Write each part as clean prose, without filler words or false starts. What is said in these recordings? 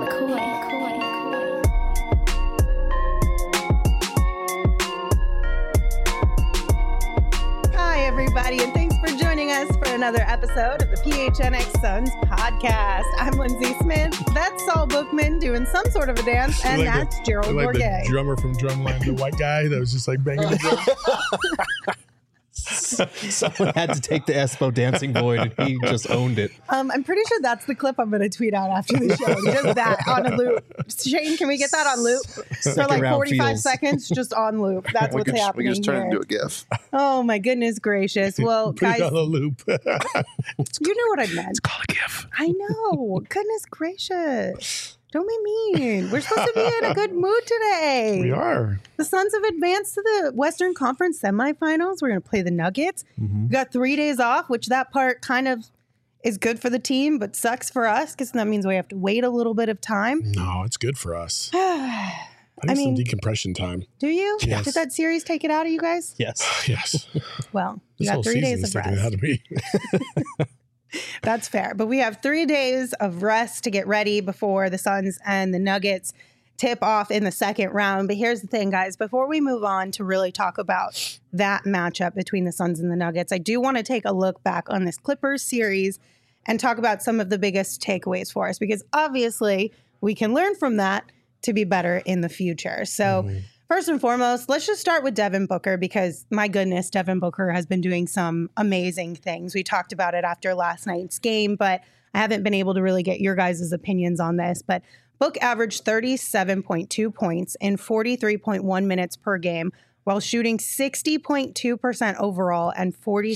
Hi, everybody, and thanks for joining us for another episode of the PHNX Suns podcast. I'm Lindsay Smith. That's Saul Bookman doing some sort of a dance, and that's Gerald Bourguet. The drummer from Drumline, the white guy that was just like banging the drum. Someone had to take the Espo Dancing Void, and he just owned it. I'm pretty sure that's the clip I'm going to tweet out after the show. Just that on a loop. Shane, can we get that on loop? For like 45 seconds, just on loop. That's what's happening. We can just turn here. it into a GIF. Oh, my goodness gracious. Well, Put guys, it on a loop. you know what I meant. It's called a GIF. I know. Goodness gracious. Don't be mean. We're supposed to be in a good mood today. We are. The Suns have advanced to the Western Conference semifinals. We're going to play the Nuggets. We got 3 days off, which that part kind of is good for the team, but sucks for us because that means we have to wait a little bit of time. No, it's good for us. I need some decompression time. Do you? Yes. Did that series take it out of you guys? Yes. Yes. Well, you This got whole 3 season days is of taking it out rest. of me. That's fair. But we have 3 days of rest to get ready before the Suns and the Nuggets tip off in the second round. But here's the thing, guys. Before we move on to really talk about that matchup between the Suns and the Nuggets, I do want to take a look back on this Clippers series and talk about some of the biggest takeaways for us, because obviously we can learn from that to be better in the future. So first and foremost, let's just start with Devin Booker, because my goodness, Devin Booker has been doing some amazing things. We talked about it after last night's game, but I haven't been able to really get your guys' opinions on this. But Book averaged 37.2 points in 43.1 minutes per game, while shooting 60.2% overall and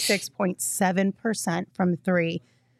46.7% from three.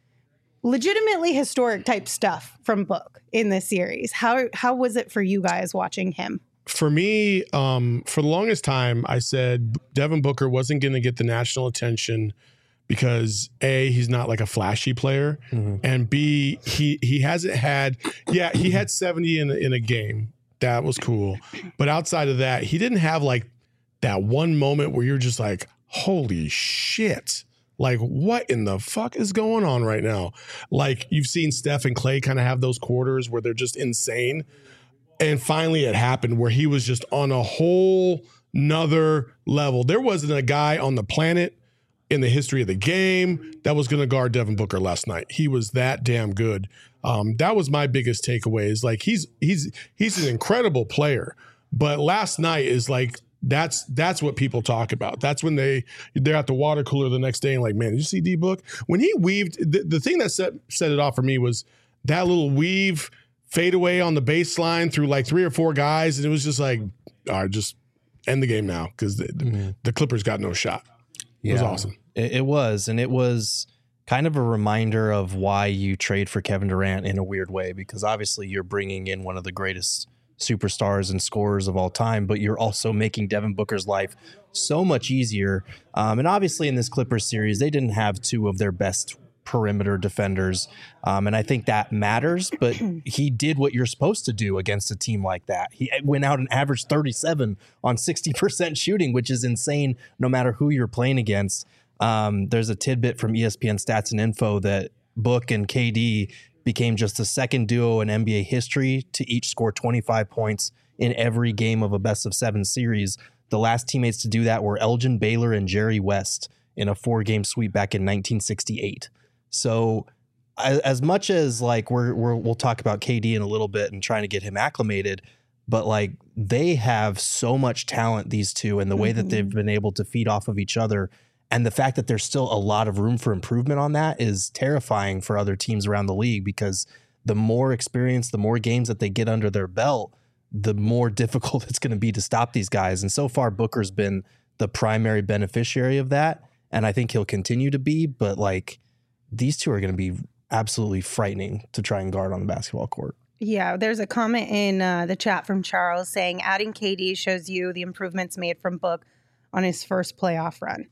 Legitimately historic type stuff from Book in this series. How was it for you guys watching him? For me, for the longest time, I said Devin Booker wasn't going to get the national attention because A, he's not like a flashy player, and B, he hasn't had, he had 70 in a game. That was cool. But outside of that, he didn't have like that one moment where you're just like, holy shit. Like, what in the fuck is going on right now? Like, you've seen Steph and Klay kind of have those quarters where they're just insane. And finally it happened where he was just on a whole nother level. There wasn't a guy on the planet in the history of the game that was going to guard Devin Booker last night. He was that damn good. That was my biggest takeaway, is like, he's an incredible player, but last night is like, that's what people talk about. That's when they're at the water cooler the next day and like, man, did you see D-Book? When he weaved, the thing that set it off for me was that little weave fadeaway on the baseline through like 3 or 4 guys. And it was just like, all right, just end the game now, because the Clippers got no shot. It was awesome. It was. And it was kind of a reminder of why you trade for Kevin Durant in a weird way, because obviously you're bringing in one of the greatest superstars and scorers of all time, but you're also making Devin Booker's life so much easier. And obviously in this Clippers series, they didn't have 2 of their best perimeter defenders. And I think that matters, but he did what you're supposed to do against a team like that. He went out and averaged 37 on 60% shooting, which is insane no matter who you're playing against. There's a tidbit from ESPN Stats and Info that Book and KD became just the second duo in NBA history to each score 25 points in every game of a best-of-7 series. The last teammates to do that were Elgin Baylor and Jerry West in a 4-game sweep back in 1968. So as much as like we'll talk about KD in a little bit and trying to get him acclimated, but like they have so much talent, these two, and the way that they've been able to feed off of each other. And the fact that there's still a lot of room for improvement on that is terrifying for other teams around the league, because the more experience, the more games that they get under their belt, the more difficult it's going to be to stop these guys. And so far, Booker's been the primary beneficiary of that. And I think he'll continue to be, but like these two are going to be absolutely frightening to try and guard on the basketball court. Yeah, there's a comment in the chat from Charles saying adding KD shows you the improvements made from Book on his first playoff run.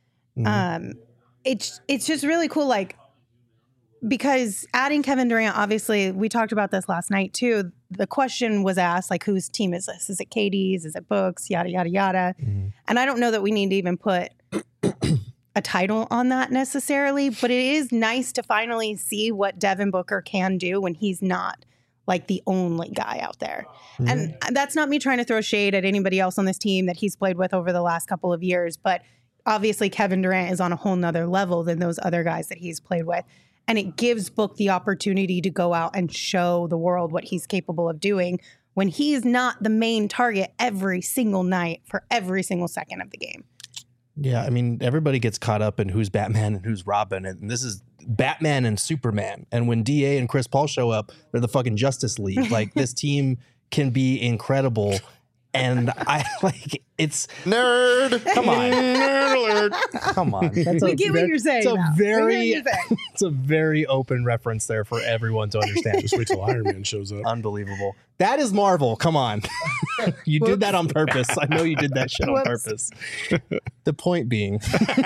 It's just really cool, like, because adding Kevin Durant, obviously, we talked about this last night too. The question was asked, like, whose team is this? Is it KD's? Is it Book's? Yada, yada, yada. And I don't know that we need to even put a title on that necessarily, but it is nice to finally see what Devin Booker can do when he's not like the only guy out there. And that's not me trying to throw shade at anybody else on this team that he's played with over the last couple of years. But obviously Kevin Durant is on a whole nother level than those other guys that he's played with. And it gives Book the opportunity to go out and show the world what he's capable of doing when he's not the main target every single night for every single second of the game. Yeah, I mean, everybody gets caught up in who's Batman and who's Robin, and this is Batman and Superman. And when DA and Chris Paul show up, they're the fucking Justice League. Like, this team can be incredible. And I like it's nerd. Come on, Nerd alert. come on. That's We get what you're saying. It's a now. very, We get what you're saying. it's a very open reference there for everyone to understand. Just wait till Iron Man shows up. Unbelievable. That is Marvel. Come on. You did that on purpose. I know you did that shit on Whoops. purpose. The point being,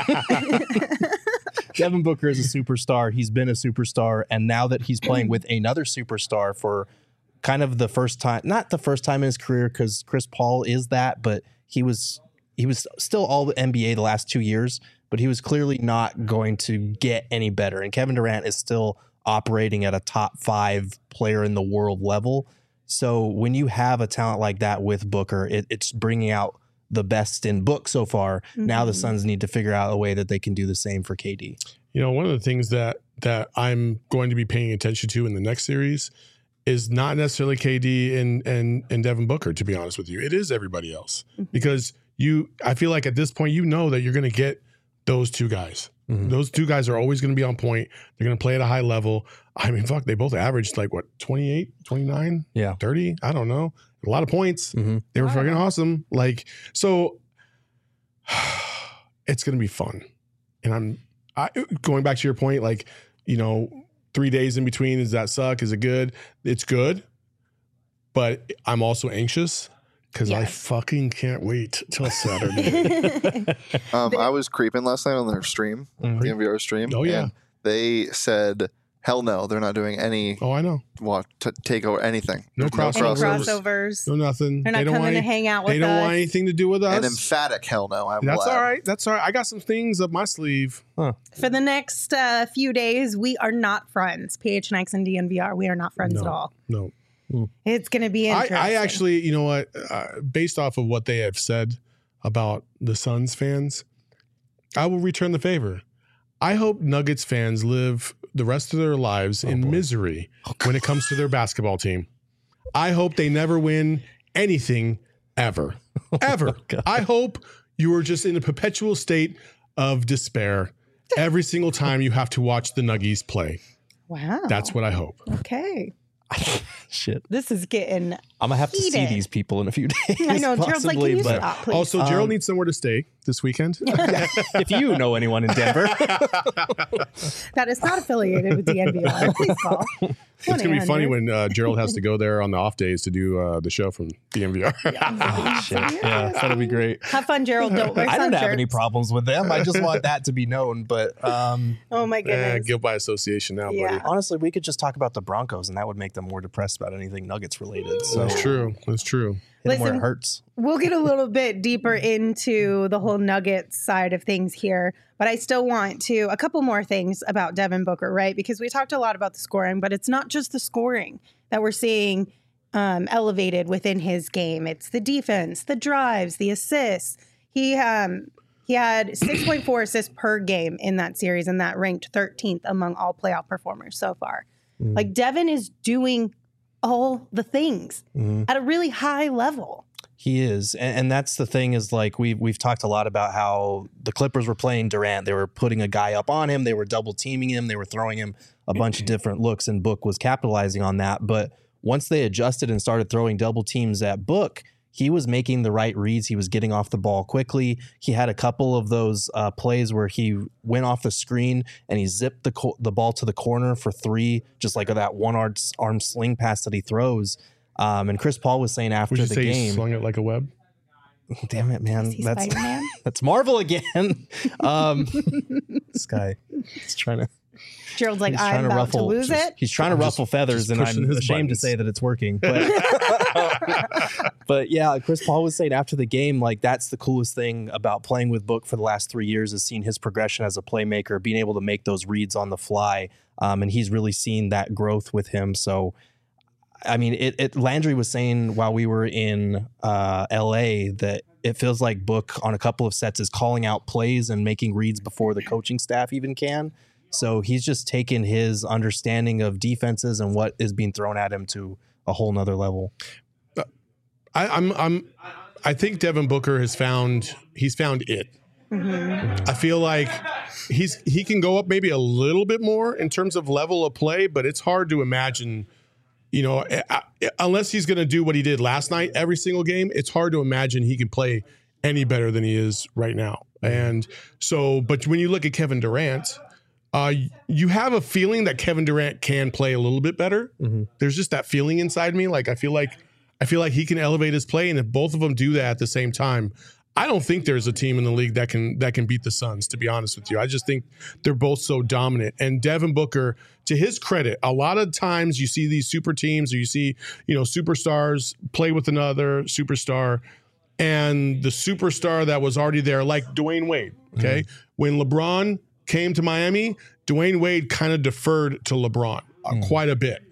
Devin Booker is a superstar. He's been a superstar. And now that he's playing with another superstar for kind of the first time, not the first time in his career, because Chris Paul is that, but he was still all the NBA the last 2 years, but he was clearly not going to get any better. And Kevin Durant is still operating at a top 5 player in the world level. So when you have a talent like that with Booker, it's bringing out the best in Book so far. Now the Suns need to figure out a way that they can do the same for KD. You know, one of the things that I'm going to be paying attention to in the next series is not necessarily KD and Devin Booker, to be honest with you. It is everybody else. Because I feel like at this point, you know that you're going to get those two guys. Those two guys are always going to be on point. They're going to play at a high level. I mean, fuck, they both averaged like, what, 28, 29, Yeah. 30? I don't know. A lot of points. They were fucking awesome. Like, so it's going to be fun. And going back to your point, like, you know, 3 days in between, does that suck? Is it good? It's good. But I'm also anxious because I fucking can't wait till Saturday. I was creeping last night on their stream, the NVR stream. Oh, yeah. And they said, hell no, they're not doing any Oh, I know. take over anything. No There's Any crossovers. crossovers. No, nothing. They're not coming to hang out with They don't us. want anything to do with us. An emphatic hell no. I'm That's glad. all right. That's all right. I got some things up my sleeve. For the next few days, we are not friends. PHNX and DNVR, we are not friends at all. No. It's going to be interesting. I actually, you know what, based off of what they have said about the Suns fans, I will return the favor. I hope Nuggets fans live the rest of their lives in misery when it comes to their basketball team. I hope they never win anything ever. Ever. I hope you are just in a perpetual state of despair every single time you have to watch the Nuggies play. Wow. That's what I hope. Okay. Shit. This is getting I'm going to have to see heated. these people in a few days. I know. Gerald's like, can you but stop, please? Also, Gerald needs somewhere to stay this weekend. if you know anyone in Denver, That is not affiliated with DNVR. Please call. It's going to be funny when Gerald has to go there on the off days to do the show from DMVR. yeah, that'll be great. Have fun, Gerald. Don't wear I don't have sun any shirts. problems with them. I just want that to be known. But Oh my goodness. Guilt by association now, Yeah. buddy. honestly, we could just talk about the Broncos, and that would make them more depressed about anything Nuggets related. So That's true. That's true. hit them where it Listen, hurts. We'll get a little bit deeper into the whole Nuggets side of things here, but I still want to a couple more things about Devin Booker, right? Because we talked a lot about the scoring, but it's not just the scoring that we're seeing elevated within his game. It's the defense, the drives, the assists. He had 6.4 assists per game in that series, and that ranked 13th among all playoff performers so far. Like Devin is doing all the things at a really high level. He is, and that's the thing is like we've talked a lot about how the Clippers were playing Durant. They were putting a guy up on him. They were double teaming him. They were throwing him a bunch of different looks, and Book was capitalizing on that. But once they adjusted and started throwing double teams at Book, he was making the right reads. He was getting off the ball quickly. He had a couple of those plays where he went off the screen and he zipped the ball to the corner for three, just like that one-arm sling pass that he throws. And Chris Paul was saying after Would you the say he game, slung it like a web? damn it, man. He's That's Spider-Man. that's Marvel again. This guy is trying to Gerald's like, he's I'm about to lose it. He's trying to ruffle feathers, just and pushing I'm his ashamed to buttons. say that it's working. But but yeah, Chris Paul was saying after the game, like that's the coolest thing about playing with Book for the last 3 years is seeing his progression as a playmaker, being able to make those reads on the fly, and he's really seen that growth with him. So I mean, Landry was saying while we were in LA that it feels like Book on a couple of sets is calling out plays and making reads before the coaching staff even can. So he's just taken his understanding of defenses and what is being thrown at him to a whole nother level. I think Devin Booker he's found it. I feel like he can go up maybe a little bit more in terms of level of play, but it's hard to imagine, unless he's going to do what he did last night every single game, it's hard to imagine he can play any better than he is right now. And so, but when you look at Kevin Durant, you have a feeling that Kevin Durant can play a little bit better. There's just that feeling inside me. Like I feel like he can elevate his play, and if both of them do that at the same time, I don't think there's a team in the league that can beat the Suns, to be honest with you. I just think they're both so dominant. And Devin Booker, to his credit, a lot of times you see these super teams or you see, superstars play with another superstar, and the superstar that was already there, like Dwayne Wade, okay? When LeBron came to Miami, Dwayne Wade kind of deferred to LeBron quite a bit.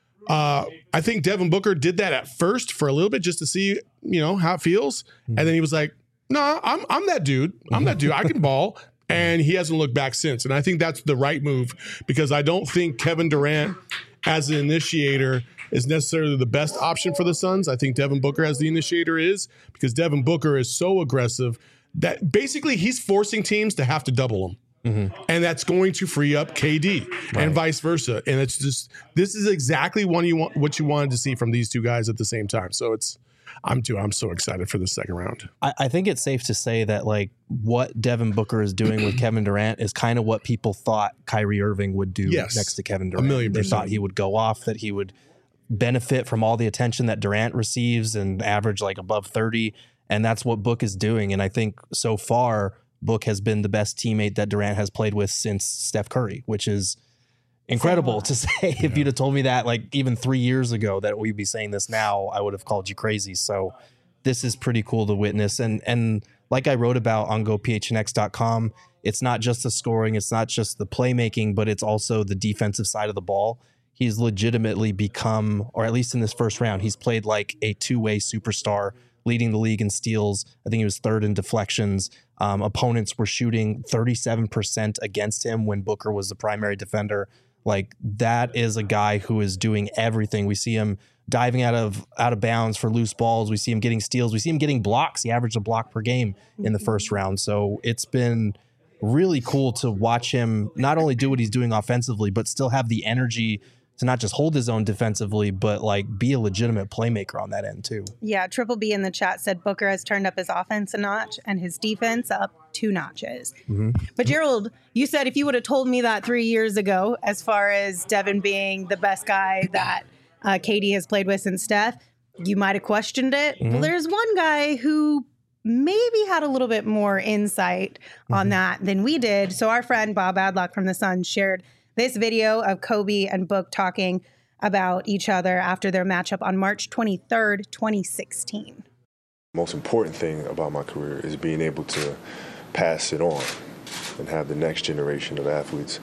I think Devin Booker did that at first for a little bit just to see, how it feels. And then he was like, no, I'm that dude. I'm that dude. I can ball. And he hasn't looked back since. And I think that's the right move, because I don't think Kevin Durant as an initiator is necessarily the best option for the Suns. I think Devin Booker as the initiator is, because Devin Booker is so aggressive that basically he's forcing teams to have to double him. And that's going to free up KD and vice versa. And it's just, this is exactly what you wanted to see from these two guys at the same time. So I'm so excited for the second round. I think it's safe to say that like what Devin Booker is doing with Kevin Durant is kind of what people thought Kyrie Irving would do next to Kevin Durant. 1,000,000%. They thought he would go off, that he would benefit from all the attention that Durant receives and average like above 30. And that's what Book is doing. And I think so far, Book has been the best teammate that Durant has played with since Steph Curry, which is incredible to say. If you'd have told me that like even 3 years ago that we'd be saying this now, I would have called you crazy. So this is pretty cool to witness. And like I wrote about on gophnx.com, it's not just the scoring, it's not just the playmaking, but it's also the defensive side of the ball. He's legitimately become, or at least in this first round, he's played like a two-way superstar, leading the league in steals. I think he was third in deflections. Opponents were shooting 37% against him when Booker was the primary defender. Like, that is a guy who is doing everything. We see him diving out of bounds for loose balls. We see him getting steals. We see him getting blocks. He averaged a block per game in the first round. So it's been really cool to watch him not only do what he's doing offensively, but still have the energy to not just hold his own defensively, but like be a legitimate playmaker on that end too. Yeah, Triple B in the chat said Booker has turned up his offense a notch and his defense up 2 notches. But Gerald, you said if you would have told me that 3 years ago, as far as Devin being the best guy that KD has played with since Steph, you might have questioned it. Well, there's one guy who maybe had a little bit more insight on that than we did. So our friend Bob Adlock from the Sun shared this video of Kobe and Book talking about each other after their matchup on March 23rd, 2016. The most important thing about my career is being able to pass it on and have the next generation of athletes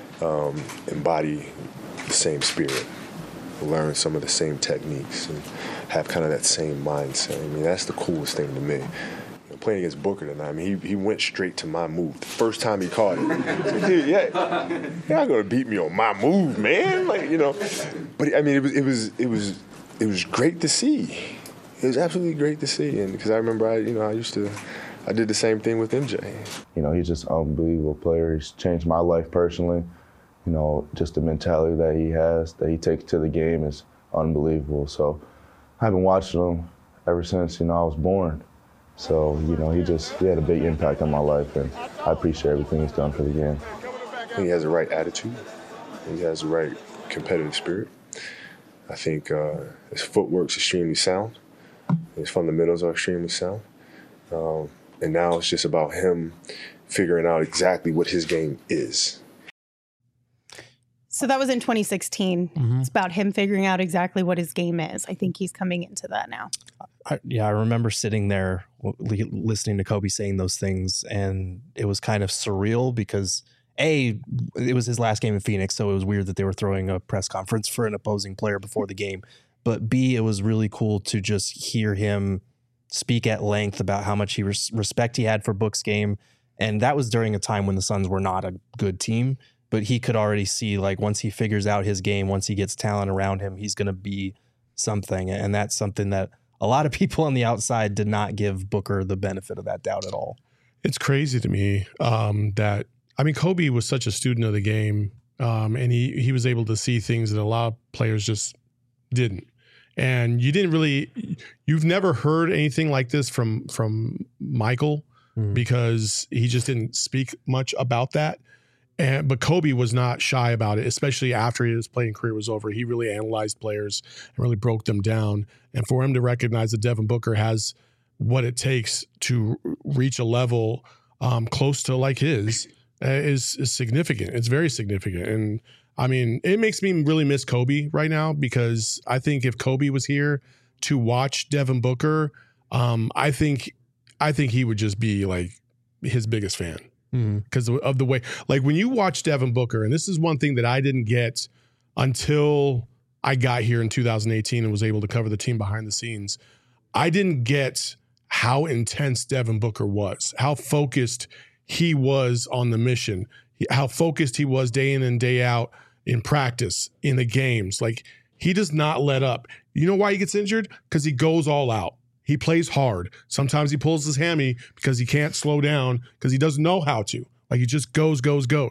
embody the same spirit, learn some of the same techniques, and have kind of that same mindset. I mean, that's the coolest thing to me. Playing against Booker tonight, I mean, he went straight to my move. The first time he caught it, dude, you're not gonna beat me on my move, man. Like, But I mean, it was great to see. It was absolutely great to see, and because I remember, I did the same thing with MJ. He's just an unbelievable player. He's changed my life personally. Just the mentality that he has, that he takes to the game is unbelievable. So I've been watching him ever since I was born. So, he had a big impact on my life, and I appreciate everything he's done for the game. I think he has the right attitude. He has the right competitive spirit. I think his footwork's extremely sound. His fundamentals are extremely sound. And now it's just about him figuring out exactly what his game is. So that was in 2016. It's about him figuring out exactly what his game is. I think he's coming into that now. I remember sitting there listening to Kobe saying those things, and it was kind of surreal because it was his last game in Phoenix, so it was weird that they were throwing a press conference for an opposing player before the game. but B, it was really cool to just hear him speak at length about how much respect he had for Book's game. And that was during a time when the Suns were not a good team, but he could already see, like, once he figures out his game, once he gets talent around him, he's going to be something. And that's something that a lot of people on the outside did not give Booker the benefit of that doubt at all. It's crazy to me that, I mean, Kobe was such a student of the game, and he was able to see things that a lot of players just didn't. And you've never heard anything like this from Michael, because he just didn't speak much about that. But Kobe was not shy about it, especially after his playing career was over. He really analyzed players and really broke them down. And for him to recognize that Devin Booker has what it takes to reach a level close to like his is significant. It's very significant. And I mean, it makes me really miss Kobe right now, because I think if Kobe was here to watch Devin Booker, I think he would just be like his biggest fan. Because of the way, like, when you watch Devin Booker, and this is one thing that I didn't get until I got here in 2018 and was able to cover the team behind the scenes, I didn't get how intense Devin Booker was, how focused he was on the mission, how focused he was day in and day out in practice, in the games. Like, he does not let up. You know why he gets injured? Because he goes all out. He plays hard. Sometimes he pulls his hammy because he can't slow down, because he doesn't know how to. Like, he just goes.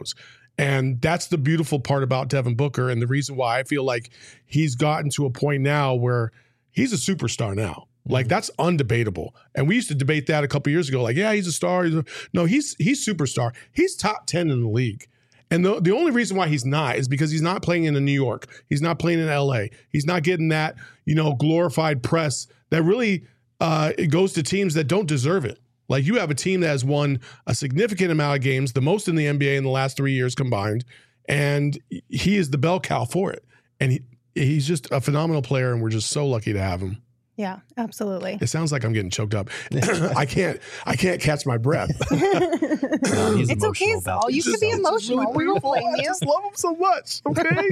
And that's the beautiful part about Devin Booker, and the reason why I feel like he's gotten to a point now where he's a superstar now. Like, that's undebatable. And we used to debate that a couple years ago. Like, yeah, he's a star. No, he's superstar. He's top 10 in the league. And the only reason why he's not is because he's not playing in New York. He's not playing in LA. He's not getting that, glorified press that really it goes to teams that don't deserve it. Like, you have a team that has won a significant amount of games, the most in the NBA in the last 3 years combined, and he is the bell cow for it. And he's just a phenomenal player, and we're just so lucky to have him. Yeah, absolutely. It sounds like I'm getting choked up. I can't catch my breath. It's okay, Saul. You can be emotional. We won't blame you. I just love him so much. Okay.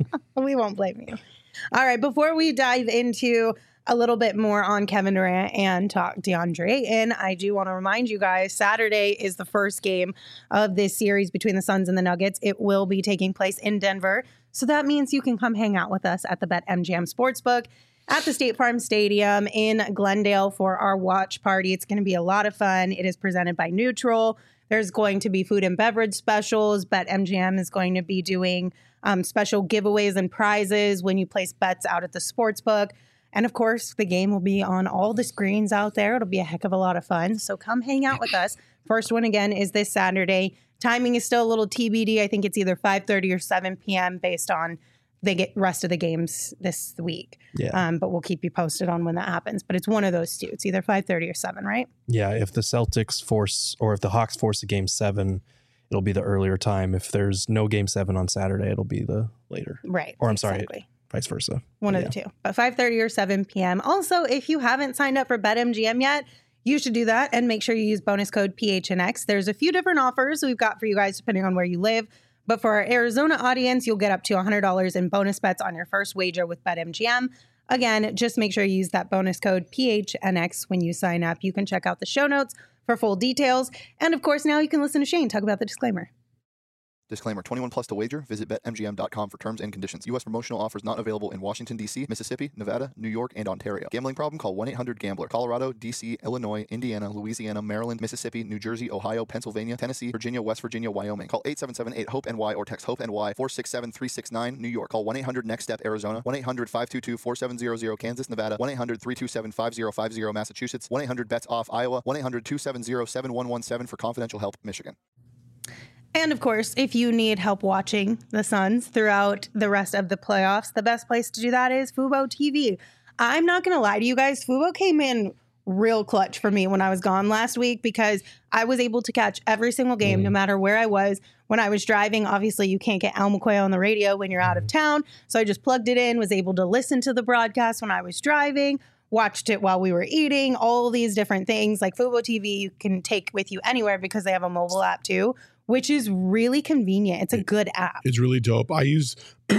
We won't blame you. All right. Before we dive into a little bit more on Kevin Durant and talk DeAndre Ayton, I do want to remind you guys, Saturday is the first game of this series between the Suns and the Nuggets. It will be taking place in Denver. So that means you can come hang out with us at the BetMGM Sportsbook at the State Farm Stadium in Glendale for our watch party. It's going to be a lot of fun. It is presented by Neutral. There's going to be food and beverage specials. BetMGM is going to be doing special giveaways and prizes when you place bets out at the sportsbook. And of course, the game will be on all the screens out there. It'll be a heck of a lot of fun. So come hang out with us. First one, again, is this Saturday. Timing is still a little TBD. I think it's either 5:30 or 7 p.m. based on the rest of the games this week. Yeah. But we'll keep you posted on when that happens. But it's one of those two. It's either 5:30 or 7, right? Yeah. If the Celtics force, or if the Hawks force a game 7, it'll be the earlier time. If there's no game 7 on Saturday, it'll be the later. Right. Or I'm exactly. sorry, vice versa. One of the two. But 5:30 or 7 p.m. Also, if you haven't signed up for BetMGM yet, you should do that and make sure you use bonus code PHNX. There's a few different offers we've got for you guys depending on where you live. But for our Arizona audience, you'll get up to $100 in bonus bets on your first wager with BetMGM. Again, just make sure you use that bonus code PHNX when you sign up. You can check out the show notes for full details. And of course, now you can listen to Shane talk about the disclaimer. Disclaimer, 21 plus to wager. Visit BetMGM.com for terms and conditions. U.S. promotional offers not available in Washington, D.C., Mississippi, Nevada, New York, and Ontario. Gambling problem? Call 1-800-GAMBLER. Colorado, D.C., Illinois, Indiana, Louisiana, Maryland, Mississippi, New Jersey, Ohio, Pennsylvania, Tennessee, Virginia, West Virginia, Wyoming. Call 877-8-HOPE-NY or text HOPE-NY 467-369, New York. Call 1-800-NEXT-STEP, Arizona. 1-800-522-4700, Kansas, Nevada. 1-800-327-5050, Massachusetts. 1-800-BETS-OFF, Iowa. 1-800-270-7117 for confidential help, Michigan. And of course, if you need help watching the Suns throughout the rest of the playoffs, the best place to do that is Fubo TV. I'm not going to lie to you guys. Fubo came in real clutch for me when I was gone last week because I was able to catch every single game, no matter where I was. When I was driving, obviously you can't get Al McCoy on the radio when you're out of town. So I just plugged it in, was able to listen to the broadcast when I was driving, watched it while we were eating, all these different things. Like Fubo TV, you can take with you anywhere because they have a mobile app too. which is really convenient. It's a good app. It's really dope. I use,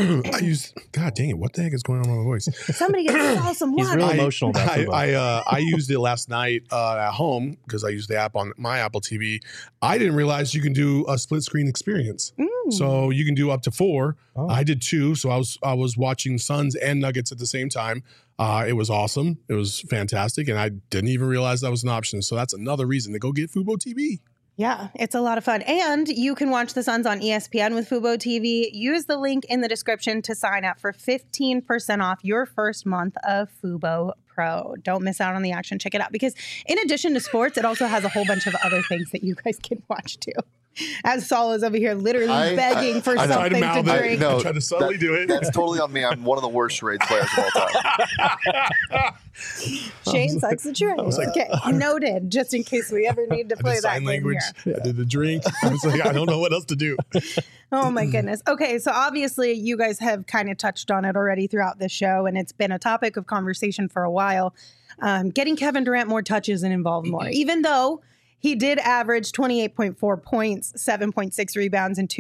God dang it, what the heck is going on with my voice? Somebody get some He's water. really emotional about football. I used it last night at home because I used the app on my Apple TV. I didn't realize you can do a split screen experience. So you can do up to 4. Oh. I did 2. So I was watching Suns and Nuggets at the same time. It was awesome. It was fantastic. And I didn't even realize that was an option. So that's another reason to go get Fubo TV. Yeah, it's a lot of fun. And you can watch the Suns on ESPN with Fubo TV. Use the link in the description to sign up for 15% off your first month of Fubo Pro. Don't miss out on the action. Check it out, because in addition to sports, it also has a whole bunch of other things that you guys can watch too. As Saul is over here literally begging for something to drink. I tried to subtly do it. That's totally on me. I'm one of the worst charades players of all time. Shane sucks the drink. Okay, noted. Just in case we ever need to play that sign game language. here. I did the drink. I was like, I don't know what else to do. Oh my goodness. Okay, so obviously you guys have kind of touched on it already throughout this show, and it's been a topic of conversation for a while. Getting Kevin Durant more touches and involved more, even though he did average 28.4 points, 7.6 rebounds, and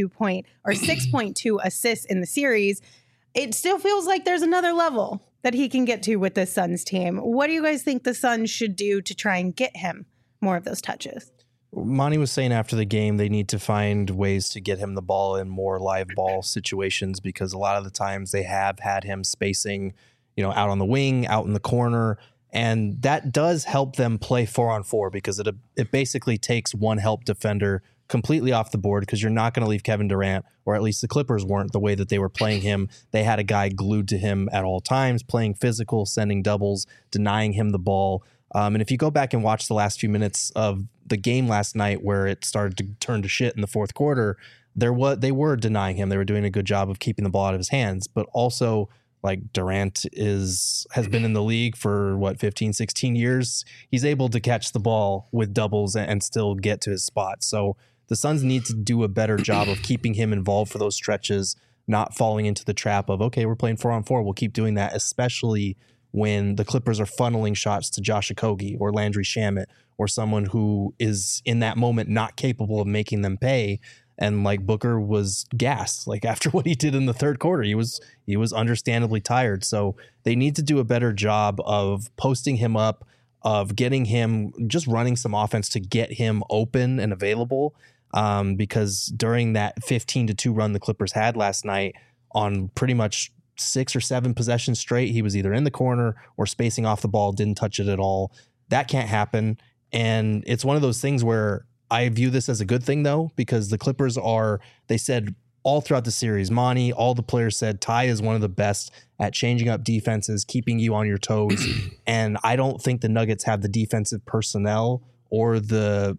6.2 assists in the series. It still feels like there's another level that he can get to with this Suns team. What do you guys think the Suns should do to try and get him more of those touches? Monty was saying after the game they need to find ways to get him the ball in more live ball situations, because a lot of the times they have had him spacing, out on the wing, out in the corner. And that does help them play 4-on-4, because it basically takes one help defender completely off the board, because you're not going to leave Kevin Durant, or at least the Clippers weren't, the way that they were playing him. They had a guy glued to him at all times, playing physical, sending doubles, denying him the ball. And if you go back and watch the last few minutes of the game last night, where it started to turn to shit in the fourth quarter, they were denying him. They were doing a good job of keeping the ball out of his hands, but also, like, Durant has been in the league for 15, 16 years. He's able to catch the ball with doubles and still get to his spot. So the Suns need to do a better job of keeping him involved for those stretches, not falling into the trap of, okay, we're playing 4-on-4. We'll keep doing that, especially when the Clippers are funneling shots to Josh Okogie or Landry Shamet, or someone who is in that moment not capable of making them pay. And like, Booker was gassed, like, after what he did in the third quarter. He was understandably tired. So they need to do a better job of posting him up, of getting him, just running some offense to get him open and available. Because during that 15-2 run the Clippers had last night, on pretty much 6 or 7 possessions straight, he was either in the corner or spacing off the ball, didn't touch it at all. That can't happen. And it's one of those things where I view this as a good thing, though, because the Clippers they said all throughout the series, Monty, all the players said Ty is one of the best at changing up defenses, keeping you on your toes. And I don't think the Nuggets have the defensive personnel or the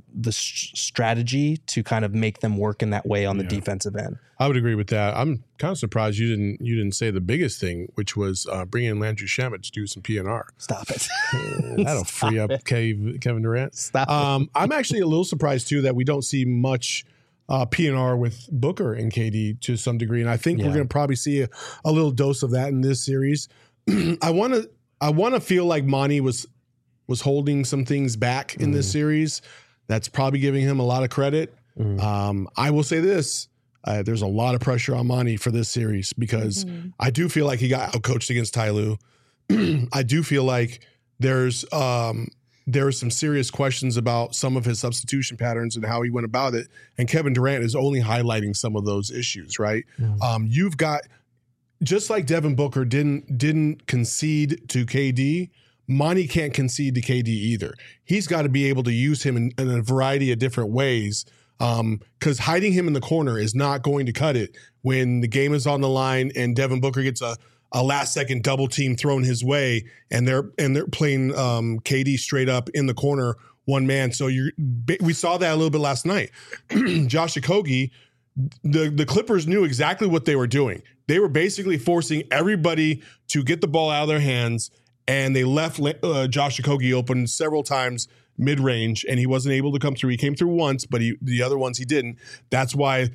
strategy to kind of make them work in that way on the defensive end. I would agree with that. I'm kind of surprised you didn't say the biggest thing, which was bringing in Landry Shamet to do some PNR. Stop it. That'll free up Kevin Durant. Stop it. I'm actually a little surprised too that we don't see much PNR with Booker and KD to some degree, and I think we're going to probably see a little dose of that in this series. I want to feel like Monty was holding some things back in this series. That's probably giving him a lot of credit. I will say this. There's a lot of pressure on Monty for this series, because I do feel like he got outcoached against Ty Lue. I do feel like there are some serious questions about some of his substitution patterns and how he went about it. And Kevin Durant is only highlighting some of those issues, right? You've got, just like Devin Booker didn't concede to KD, Monty can't concede to KD either. He's got to be able to use him in a variety of different ways, because hiding him in the corner is not going to cut it when the game is on the line and Devin Booker gets a last-second double team thrown his way, and they're playing KD straight up in the corner, one man. So we saw that a little bit last night. Josh Okogie, the Clippers knew exactly what they were doing. They were basically forcing everybody to get the ball out of their hands, and they left Josh Okogie open several times mid-range, and he wasn't able to come through. He came through once, but the other ones he didn't. That's why,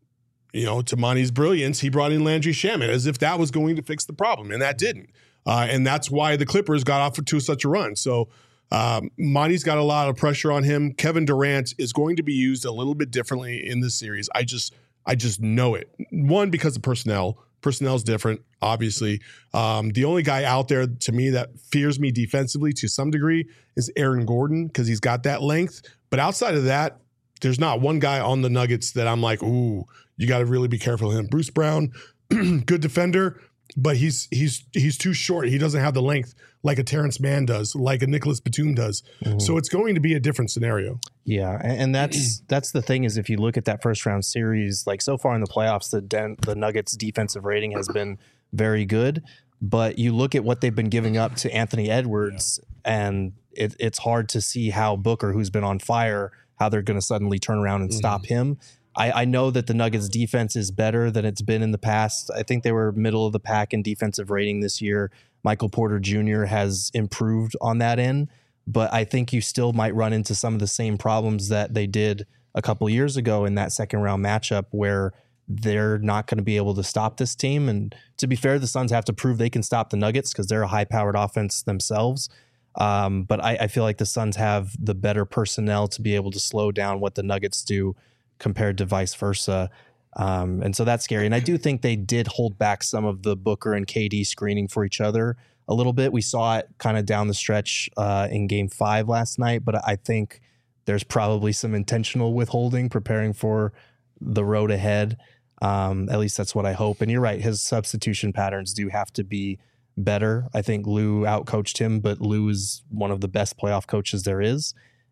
to Monty's brilliance, he brought in Landry Shamet as if that was going to fix the problem, and that didn't. And that's why the Clippers got off to such a run. So Monty's got a lot of pressure on him. Kevin Durant is going to be used a little bit differently in this series. I just know it. One, because of personnel. Personnel's different, obviously. The only guy out there to me that fears me defensively to some degree is Aaron Gordon, because he's got that length. But outside of that, there's not one guy on the Nuggets that I'm like, ooh, you got to really be careful of him. Bruce Brown, good defender, but he's too short. He doesn't have the length like a Terrence Mann does, like a Nicholas Batum does. Mm-hmm. So it's going to be a different scenario. Yeah, and that's the thing, is if you look at that first round series, like so far in the playoffs, the Nuggets defensive rating has been very good, but you look at what they've been giving up to Anthony Edwards, and it's hard to see how Booker, who's been on fire, how they're going to suddenly turn around and stop him. I know that the Nuggets defense is better than it's been in the past. I think they were middle of the pack in defensive rating this year. Michael Porter Jr. has improved on that end, but I think you still might run into some of the same problems that they did a couple of years ago in that second round matchup, where they're not going to be able to stop this team. And to be fair, the Suns have to prove they can stop the Nuggets because they're a high-powered offense themselves. But I feel like the Suns have the better personnel to be able to slow down what the Nuggets do compared to vice versa. And so that's scary. And I do think they did hold back some of the Booker and KD screening for each other a little bit. We saw it kind of down the stretch in Game 5 last night, but I think there's probably some intentional withholding preparing for the road ahead. At least that's what I hope. And you're right, his substitution patterns do have to be better. I think Lou outcoached him, but Lou is one of the best playoff coaches there is.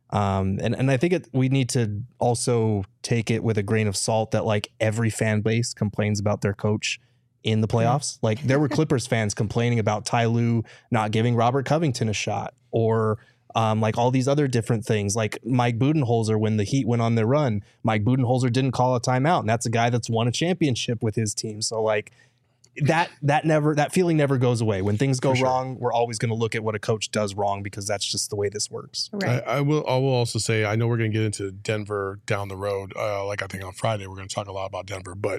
And I think we need to also take it with a grain of salt that like every fan base complains about their coach in the playoffs. Like there were Clippers fans complaining about Ty Lue not giving Robert Covington a shot, or like all these other different things. Like Mike Budenholzer, when the Heat went on their run, Mike Budenholzer didn't call a timeout, and that's a guy that's won a championship with his team. So like that feeling never goes away. When things go wrong, we're always going to look at what a coach does wrong, because that's just the way this works. Right. I will also say, I know we're going to get into Denver down the road. Like I think on Friday, we're going to talk a lot about Denver, but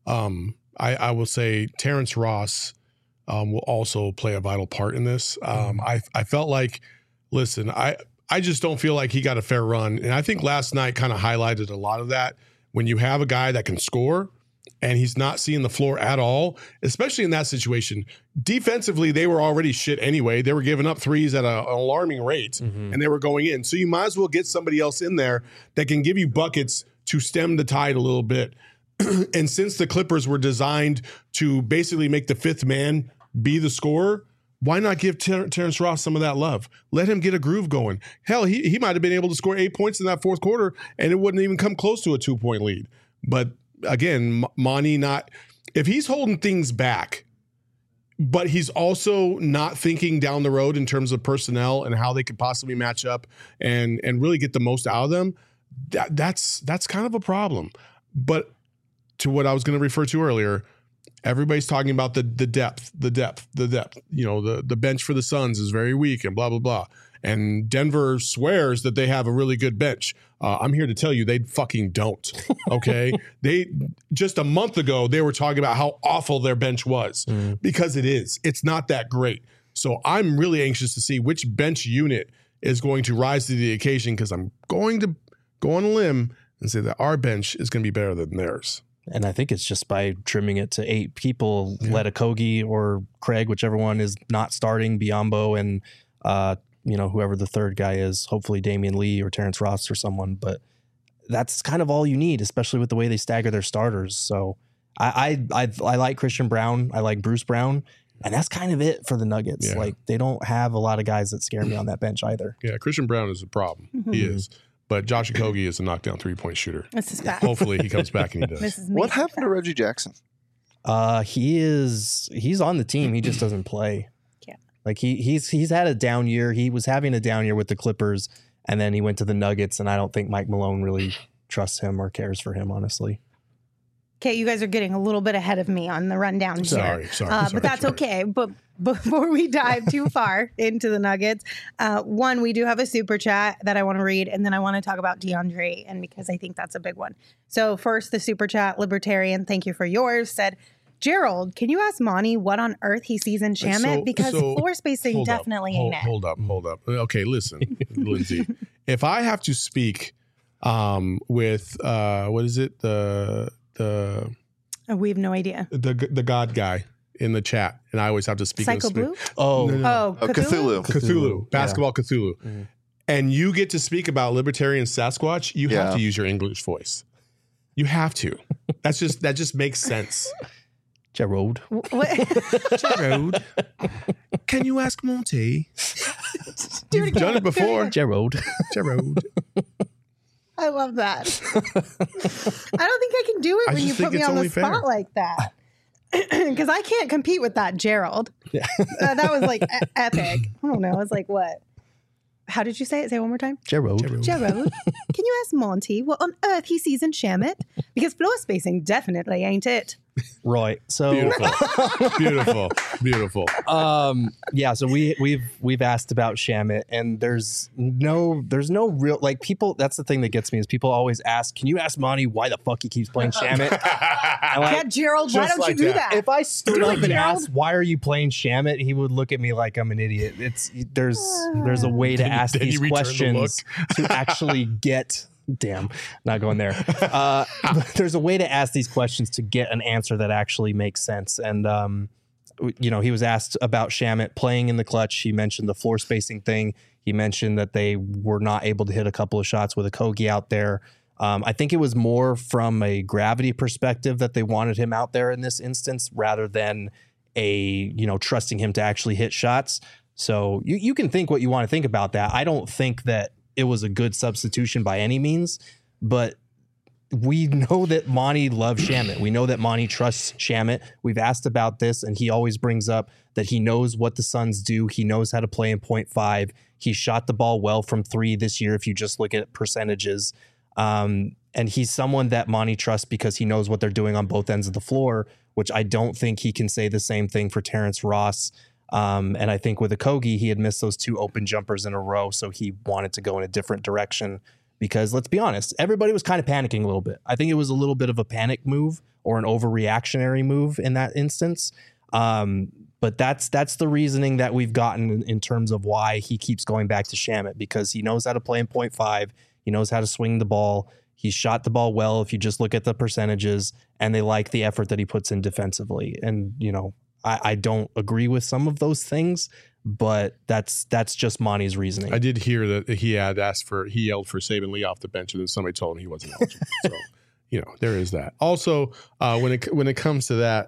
I will say Terrence Ross will also play a vital part in this. I felt like, listen, I just don't feel like he got a fair run. And I think last night kind of highlighted a lot of that. When you have a guy that can score and he's not seeing the floor at all, especially in that situation. Defensively, they were already shit anyway. They were giving up threes at an alarming rate, and they were going in. So you might as well get somebody else in there that can give you buckets to stem the tide a little bit. And since the Clippers were designed to basically make the fifth man be the scorer, why not give Terrence Ross some of that love? Let him get a groove going. Hell, he might have been able to score 8 points in that fourth quarter, and it wouldn't even come close to a 2-point lead. But again, Monty if he's holding things back, but he's also not thinking down the road in terms of personnel and how they could possibly match up and really get the most out of them, that's kind of a problem. But to what I was going to refer to earlier, everybody's talking about the depth. You know, the bench for the Suns is very weak and blah, blah, blah. And Denver swears that they have a really good bench. I'm here to tell you they fucking don't, okay? They just a month ago, they were talking about how awful their bench was, because it is. It's not that great. So I'm really anxious to see which bench unit is going to rise to the occasion, because I'm going to go on a limb and say that our bench is going to be better than theirs. And I think it's just by trimming it to 8 people, let Okogie or Craig, whichever one is not starting, Biyombo and whoever the third guy is, hopefully Damian Lee or Terrence Ross or someone. But that's kind of all you need, especially with the way they stagger their starters. So I like Christian Braun. I like Bruce Brown. And that's kind of it for the Nuggets. Yeah. Like, they don't have a lot of guys that scare me on that bench either. Yeah, Christian Braun is a problem. Mm-hmm. He is. But Josh Okogie is a knockdown 3-point shooter. This is bad. Hopefully he comes back and he does. What happened to Reggie Jackson? He's on the team. He just doesn't play. Yeah. Like he's had a down year. He was having a down year with the Clippers, and then he went to the Nuggets, and I don't think Mike Malone really trusts him or cares for him, honestly. Okay, you guys are getting a little bit ahead of me on the rundown here. Sorry. But that's okay. But before we dive too far into the Nuggets, one, we do have a super chat that I want to read, and then I want to talk about DeAndre, and because I think that's a big one. So first, the super chat, Libertarian, thank you for yours, said, Gerald, can you ask Monty what on earth he sees in Shamit? Because floor spacing definitely ain't it. Hold up. Okay, listen, Lindsay. If I have to speak with what is it? We have no idea. The God guy in the chat, and I always have to speak. Psycho Blue? Cthulhu. Cthulhu. Basketball Cthulhu. Mm. And you get to speak about libertarian Sasquatch. You have to use your English voice. You have to. That just makes sense. Gerald. Gerald. Can you ask Monty? You've done it before. Gerald. I love that. I don't think I can do it when you put me on the spot like that. Because I can't compete with that, Gerald. Yeah. That was like epic. I don't know. It's like, what? How did you say it? Say it one more time. Gerald. Can you ask Monty what on earth he sees in Shamit? Because floor spacing definitely ain't it. Right. So beautiful. Yeah. So we've asked about Shamit, and there's no real, like, people. That's the thing that gets me is people always ask, "Can you ask Monty why the fuck he keeps playing Shamit?" Yeah, Gerald, why don't you do that? If I stood up and asked, "Why are you playing Shamit?" he would look at me like I'm an idiot. There's a way to ask these questions to actually get. Damn, not going there. There's a way to ask these questions to get an answer that actually makes sense. And, he was asked about Shamit playing in the clutch. He mentioned the floor spacing thing. He mentioned that they were not able to hit a couple of shots with Okogie out there. I think it was more from a gravity perspective that they wanted him out there in this instance rather than trusting him to actually hit shots. So you can think what you want to think about that. I don't think that it was a good substitution by any means, but we know that Monty loves Shamit. We know that Monty trusts Shamit. We've asked about this, and he always brings up that he knows what the Suns do. He knows how to play in 0.5. He shot the ball well from 3 this year if you just look at percentages. And he's someone that Monty trusts because he knows what they're doing on both ends of the floor, which I don't think he can say the same thing for Terrence Ross. And I think with Okogie, he had missed those 2 open jumpers in a row, so he wanted to go in a different direction because, let's be honest, everybody was kind of panicking a little bit. I think it was a little bit of a panic move or an overreactionary move in that instance. But that's the reasoning that we've gotten in terms of why he keeps going back to Shamit, because he knows how to play in 0.5. He knows how to swing the ball. He shot the ball well if you just look at the percentages, and they like the effort that he puts in defensively. And, I don't agree with some of those things, but that's just Monty's reasoning. I did hear that he yelled for Saben Lee off the bench, and then somebody told him he wasn't eligible. So, there is that. Also, when it comes to that,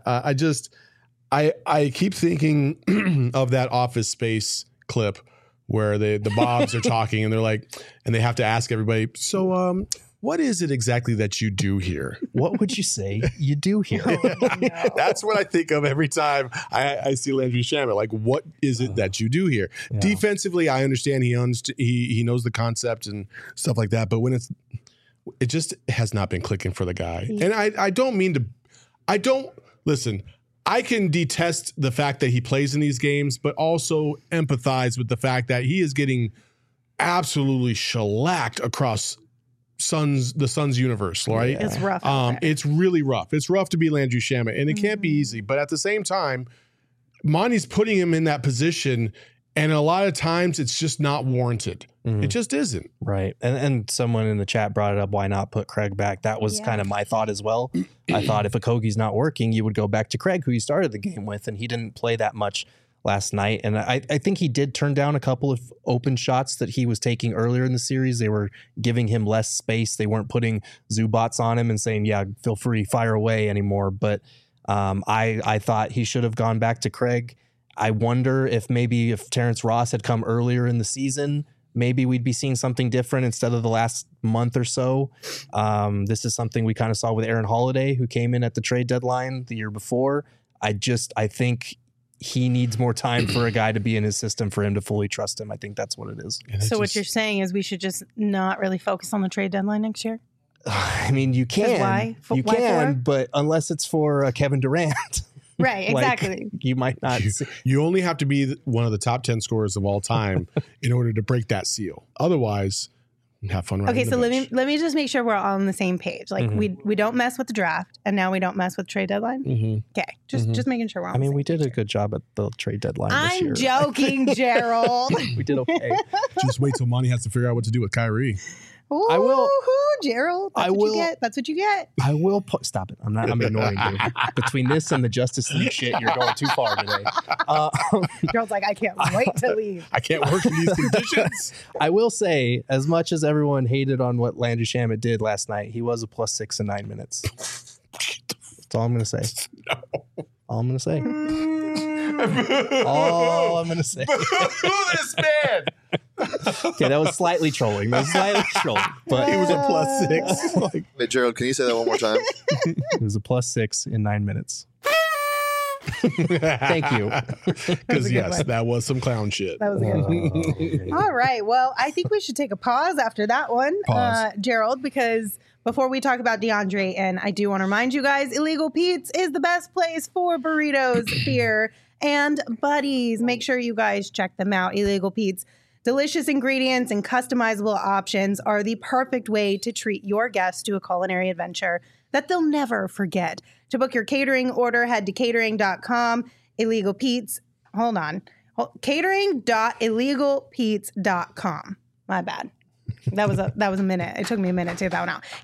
I keep thinking of that Office Space clip where the Bobs are talking and they're like, and they have to ask everybody, so what is it exactly that you do here? What would you say you do here? No. That's what I think of every time I see Landry Shamit. Like, what is it that you do here? Yeah. Defensively, I understand he knows the concept and stuff like that. But when it just has not been clicking for the guy. And I don't mean to, listen, I can detest the fact that he plays in these games, but also empathize with the fact that he is getting absolutely shellacked across the Suns universe, right? It's rough. It's really rough. It's rough to be Landry Shamit, and it can't be easy. But at the same time, Monty's putting him in that position, and a lot of times it's just not warranted. It just isn't. Right. And someone in the chat brought it up, why not put Craig back? That was kind of my thought as well. I thought if Okogie's not working, you would go back to Craig, who you started the game with, and he didn't play that much last night. And I think he did turn down a couple of open shots that he was taking earlier in the series. They were giving him less space. They weren't putting Zubats on him and saying, yeah, feel free, fire away anymore. But I thought he should have gone back to Craig. I wonder if Terrence Ross had come earlier in the season, maybe we'd be seeing something different instead of the last month or so. This is something we kind of saw with Aaron Holiday, who came in at the trade deadline the year before. I think he needs more time for a guy to be in his system for him to fully trust him. I think that's what it is. So what you're saying is we should just not really focus on the trade deadline next year? I mean, you can. Why? But unless it's for Kevin Durant. Right, exactly. You might not. You only have to be one of the top 10 scorers of all time in order to break that seal. Otherwise, Have fun. Okay, so let me just make sure we're all on the same page. Like we don't mess with the draft, and now we don't mess with trade deadline. Okay, just making sure we're on. I mean, the same we did page a good job at the trade deadline this I'm year. joking, Gerald. We did okay. Just wait till Monty has to figure out what to do with Kyrie. Ooh, I will- Gerald. That's I what will- you get. That's what you get. I will stop it. I'm ignoring you. Between this and the Justice League shit, you're going too far today. Gerald's like, I can't wait to leave. I can't work in these conditions. I will say, as much as everyone hated on what Landry Shamet did last night, he was a +6 in 9 minutes. That's all I'm going to say. All I'm going to say. All I'm going to say. This man. Okay, that was slightly trolling. But He was a +6. Like, Hey, Gerald, can you say that one more time? it was a +6 in 9 minutes. Thank you. Because yes, that was some clown shit. That was a good one. All right. Well, I think we should take a pause after that one, Gerald, because before we talk about DeAndre, and I do want to remind you guys, Illegal Pete's is the best place for burritos, beer, and buddies. Make sure you guys check them out. Illegal Pete's delicious ingredients and customizable options are the perfect way to treat your guests to a culinary adventure that they'll never forget. To book your catering order, head to catering.com. Illegal Pete's, hold on. Catering.illegalpete's.com. My bad. That was a minute. It took me a minute to get that one out.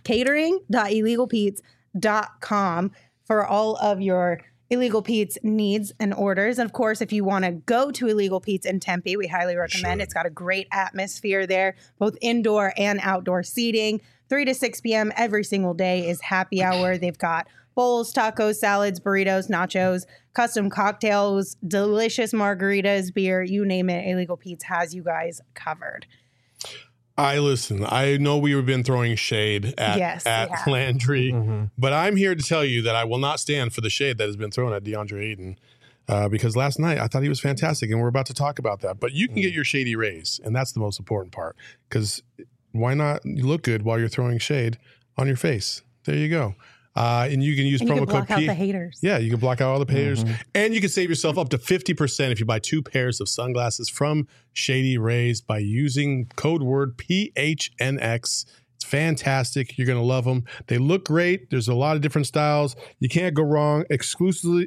Catering.illegalpete's.com for all of your Illegal Pete's needs and orders. And of course, if you want to go to Illegal Pete's in Tempe, we highly recommend. It's got a great atmosphere there, both indoor and outdoor seating. 3 to 6 p.m. every single day is happy hour. They've got bowls, tacos, salads, burritos, nachos, custom cocktails, delicious margaritas, beer, you name it. Illegal Pete's has you guys covered. Listen, I know we've been throwing shade at Landry, but I'm here to tell you that I will not stand for the shade that has been thrown at DeAndre Ayton. Because last night I thought he was fantastic, and we're about to talk about that. But you can get your shady raise, and that's the most important part. Because why not look good while you're throwing shade on your face? There you go. And you can use promo code block out the haters. Yeah, you can block out all the haters. And you can save yourself up to 50% if you buy 2 pairs of sunglasses from Shady Rays by using code word PHNX. It's fantastic. You're going to love them. They look great. There's a lot of different styles. You can't go wrong. Exclusively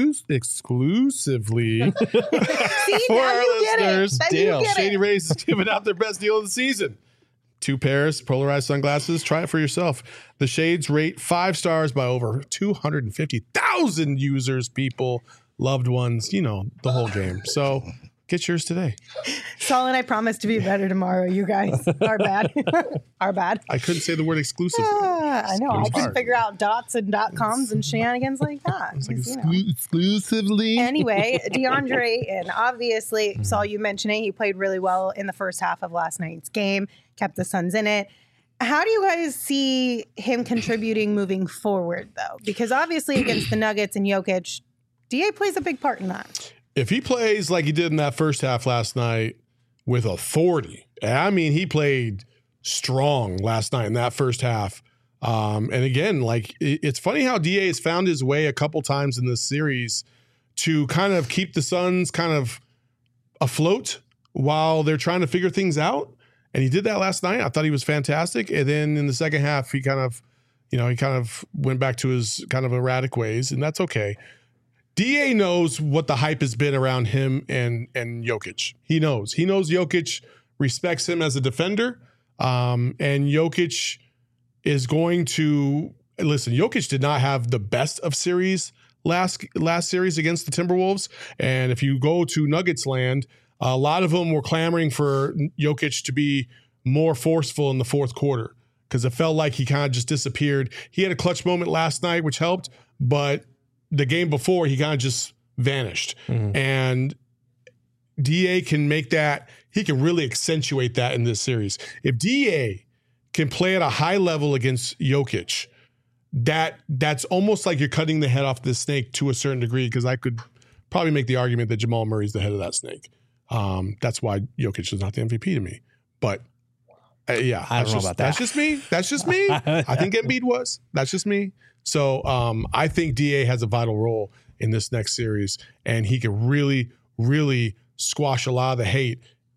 See, for now our you get listeners. it. Then you get Shady it. Rays is giving out their best deal of the season. 2 pairs, polarized sunglasses. Try it for yourself. The shades rate 5 stars by over 250,000 users, people, loved ones, you know, the whole game. So get yours today. Saul and I promise to be better tomorrow, you guys. Our bad. Our bad. I couldn't say the word exclusive. I know. I couldn't hard. figure out dots and .coms and shenanigans like that. It's like Because, you know. exclusively. Anyway, DeAndre, and obviously, Saul, you mentioned it. He played really well in the first half of last night's game, kept the Suns in it. How do you guys see him contributing moving forward, though? Because obviously, against the Nuggets and Jokic, DA plays a big part in that. If he plays like he did in that first half last night with authority, I mean, he played strong last night in that first half. And again, like it's funny how DA has found his way a couple times in this series to kind of keep the Suns kind of afloat while they're trying to figure things out. And he did that last night. I thought he was fantastic. And then in the second half, he kind of went back to his kind of erratic ways, and that's okay. DA knows what the hype has been around him and Jokic. He knows Jokic respects him as a defender. And Jokic is going to listen. Jokic did not have the best of series last series against the Timberwolves. And if you go to Nuggets land, a lot of them were clamoring for Jokic to be more forceful in the fourth quarter because it felt like he kind of just disappeared. He had a clutch moment last night, which helped, but the game before, he kind of just vanished. And DA can make that, he can really accentuate that in this series. If DA can play at a high level against Jokic, that's almost like you're cutting the head off the snake to a certain degree, because I could probably make the argument that Jamal Murray's the head of that snake. That's why Jokic is not the MVP to me. But yeah, I don't know about that. That's just me. I think Embiid was. That's just me. So I think DA has a vital role in this next series, and he can really, really squash a lot of the hate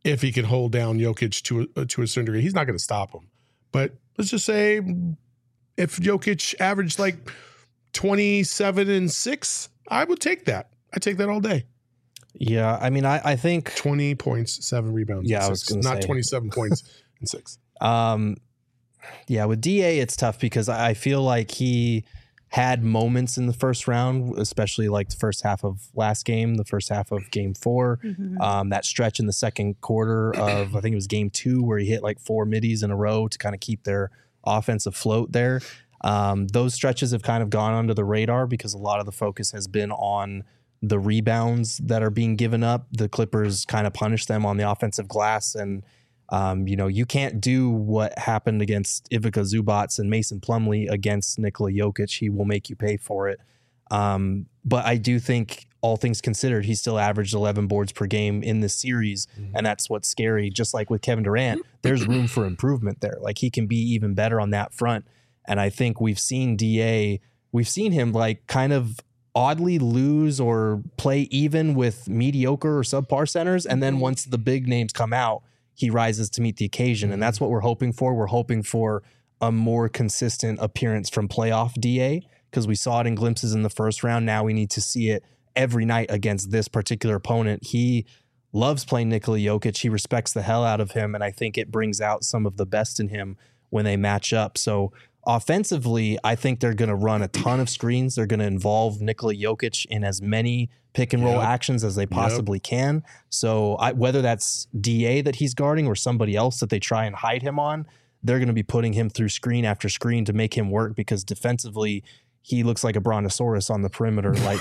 if he can hold down Jokic to a certain degree. He's not going to stop him. But let's just say if Jokic averaged like 27 and 6, I would take that. I take that all day. Yeah, I mean, I think 20 points, 7 rebounds. Yeah, and I was 6, going to say not 27 points and 6. Yeah, with DA, it's tough because I feel like he had moments in the first round, especially like the first half of last game, the first half of game 4, that stretch in the second quarter of, I think it was game 2, where he hit like 4 middies in a row to kind of keep their offense afloat there. Those stretches have kind of gone under the radar because a lot of the focus has been on the rebounds that are being given up. The Clippers kind of punish them on the offensive glass, and you can't do what happened against Ivica Zubac and Mason Plumlee against Nikola Jokic. He will make you pay for it. But I do think, all things considered, he still averaged 11 boards per game in this series, and that's what's scary. Just like with Kevin Durant, there's room for improvement there. Like, he can be even better on that front. And I think we've seen him like kind of oddly lose or play even with mediocre or subpar centers. And then once the big names come out, he rises to meet the occasion. And that's what we're hoping for. We're hoping for a more consistent appearance from playoff DA, because we saw it in glimpses in the first round. Now we need to see it every night against this particular opponent. He loves playing Nikola Jokic. He respects the hell out of him. And I think it brings out some of the best in him when they match up. So offensively, I think they're going to run a ton of screens. They're going to involve Nikola Jokic in as many pick and roll actions as they possibly can. So whether that's DA that he's guarding or somebody else that they try and hide him on, they're going to be putting him through screen after screen to make him work, because defensively, he looks like a brontosaurus on the perimeter. Like,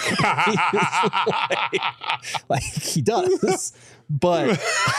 like he does, but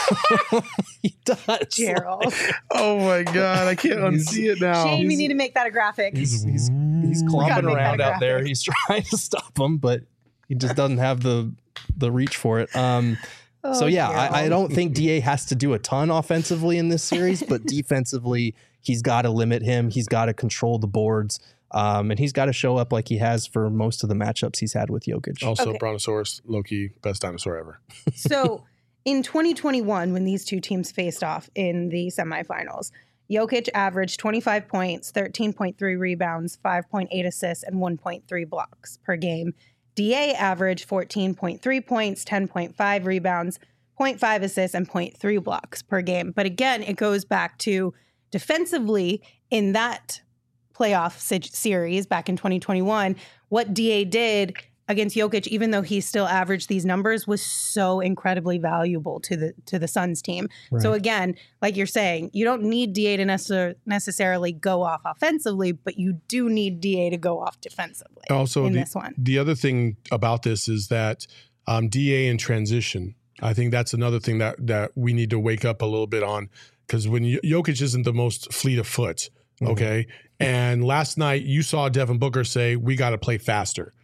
he does. Gerald. Oh my God, I can't unsee it now. Shane, we need to make that a graphic. He's clomping around out there. He's trying to stop him, but he just doesn't have the reach for it. So yeah, I don't think DA has to do a ton offensively in this series, but defensively, he's got to limit him. He's got to control the boards. And he's got to show up like he has for most of the matchups he's had with Jokic. Also, Brontosaurus, low-key, best dinosaur ever. So in 2021, when these two teams faced off in the semifinals, Jokic averaged 25 points, 13.3 rebounds, 5.8 assists, and 1.3 blocks per game. DA averaged 14.3 points, 10.5 rebounds, 0.5 assists, and 0.3 blocks per game. But again, it goes back to defensively in that playoff series back in 2021, what DA did against Jokic, even though he still averaged these numbers, was so incredibly valuable to the Suns team. Right. So again, like you're saying, you don't need DA to necessarily go off offensively, but you do need DA to go off defensively. Also, this one. The other thing about this is that DA in transition, I think that's another thing that we need to wake up a little bit on, because when Jokic isn't the most fleet of foot, okay? And last night you saw Devin Booker say, we got to play faster.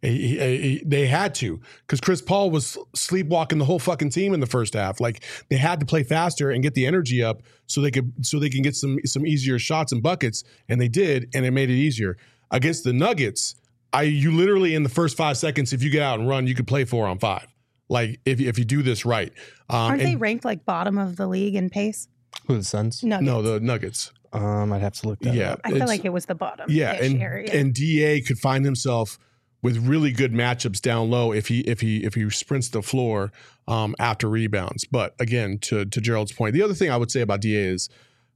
They had to, because Chris Paul was sleepwalking the whole fucking team in the first half. Like, they had to play faster and get the energy up so they can get some easier shots and buckets, and they did, and it made it easier. Against the Nuggets, you literally in the first 5 seconds, if you get out and run, you could play 4-on-5. Like, if you do this right. Aren't they ranked like bottom of the league in pace? Who, the Suns? Nuggets. No, the Nuggets. I'd have to look that up. I feel like it was the bottom. Yeah, area. And DA could find himself with really good matchups down low if he sprints the floor after rebounds. But again, to Gerald's point, the other thing I would say about DA is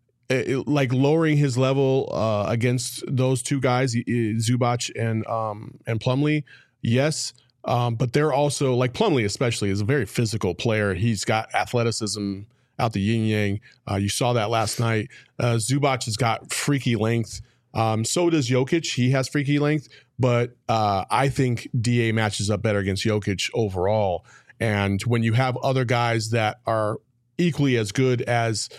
like lowering his level against those two guys, Zubac and Plumlee. Yes. But they're also, like, Plumlee especially is a very physical player. He's got athleticism out the yin yang. You saw that last night. Zubac has got freaky length. So does Jokic. He has freaky length, but I think DA matches up better against Jokic overall. And when you have other guys that are equally as good as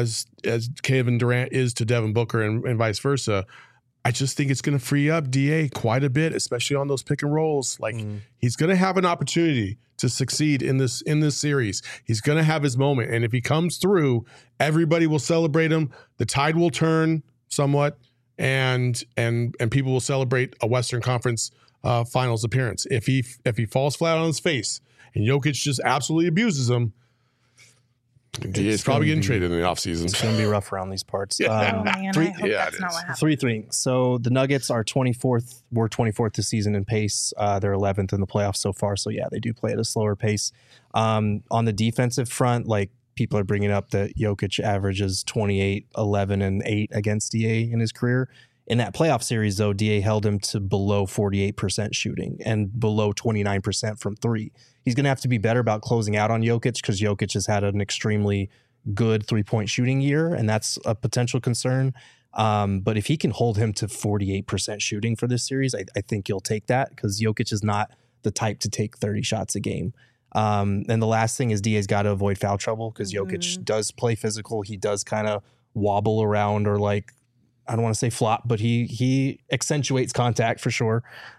Kevin Durant is to Devin Booker and vice versa, I just think it's going to free up DA quite a bit, especially on those pick and rolls. Like, he's going to have an opportunity to succeed in this series. He's going to have his moment, and if he comes through, everybody will celebrate him. The tide will turn somewhat, and people will celebrate a Western Conference Finals appearance. If he falls flat on his face and Jokic just absolutely abuses him, It's probably getting traded in the offseason. It's going to be rough around these parts. Oh, man, I hope yeah, that's it not is. what happens. 3-3. So the Nuggets are 24th. We're 24th this season in pace. They're 11th in the playoffs so far. So yeah, they do play at a slower pace. On the defensive front, like people are bringing up that Jokic averages 28, 11, and 8 against DA in his career. In that playoff series, though, DA held him to below 48% shooting and below 29% from three. He's going to have to be better about closing out on Jokic because Jokic has had an extremely good three-point shooting year, and that's a potential concern. But if he can hold him to 48% shooting for this series, I think you'll take that because Jokic is not the type to take 30 shots a game. And the last thing is DA's got to avoid foul trouble because Jokic does play physical. He does kind of wobble around or like, I don't want to say flop, but he accentuates contact for sure.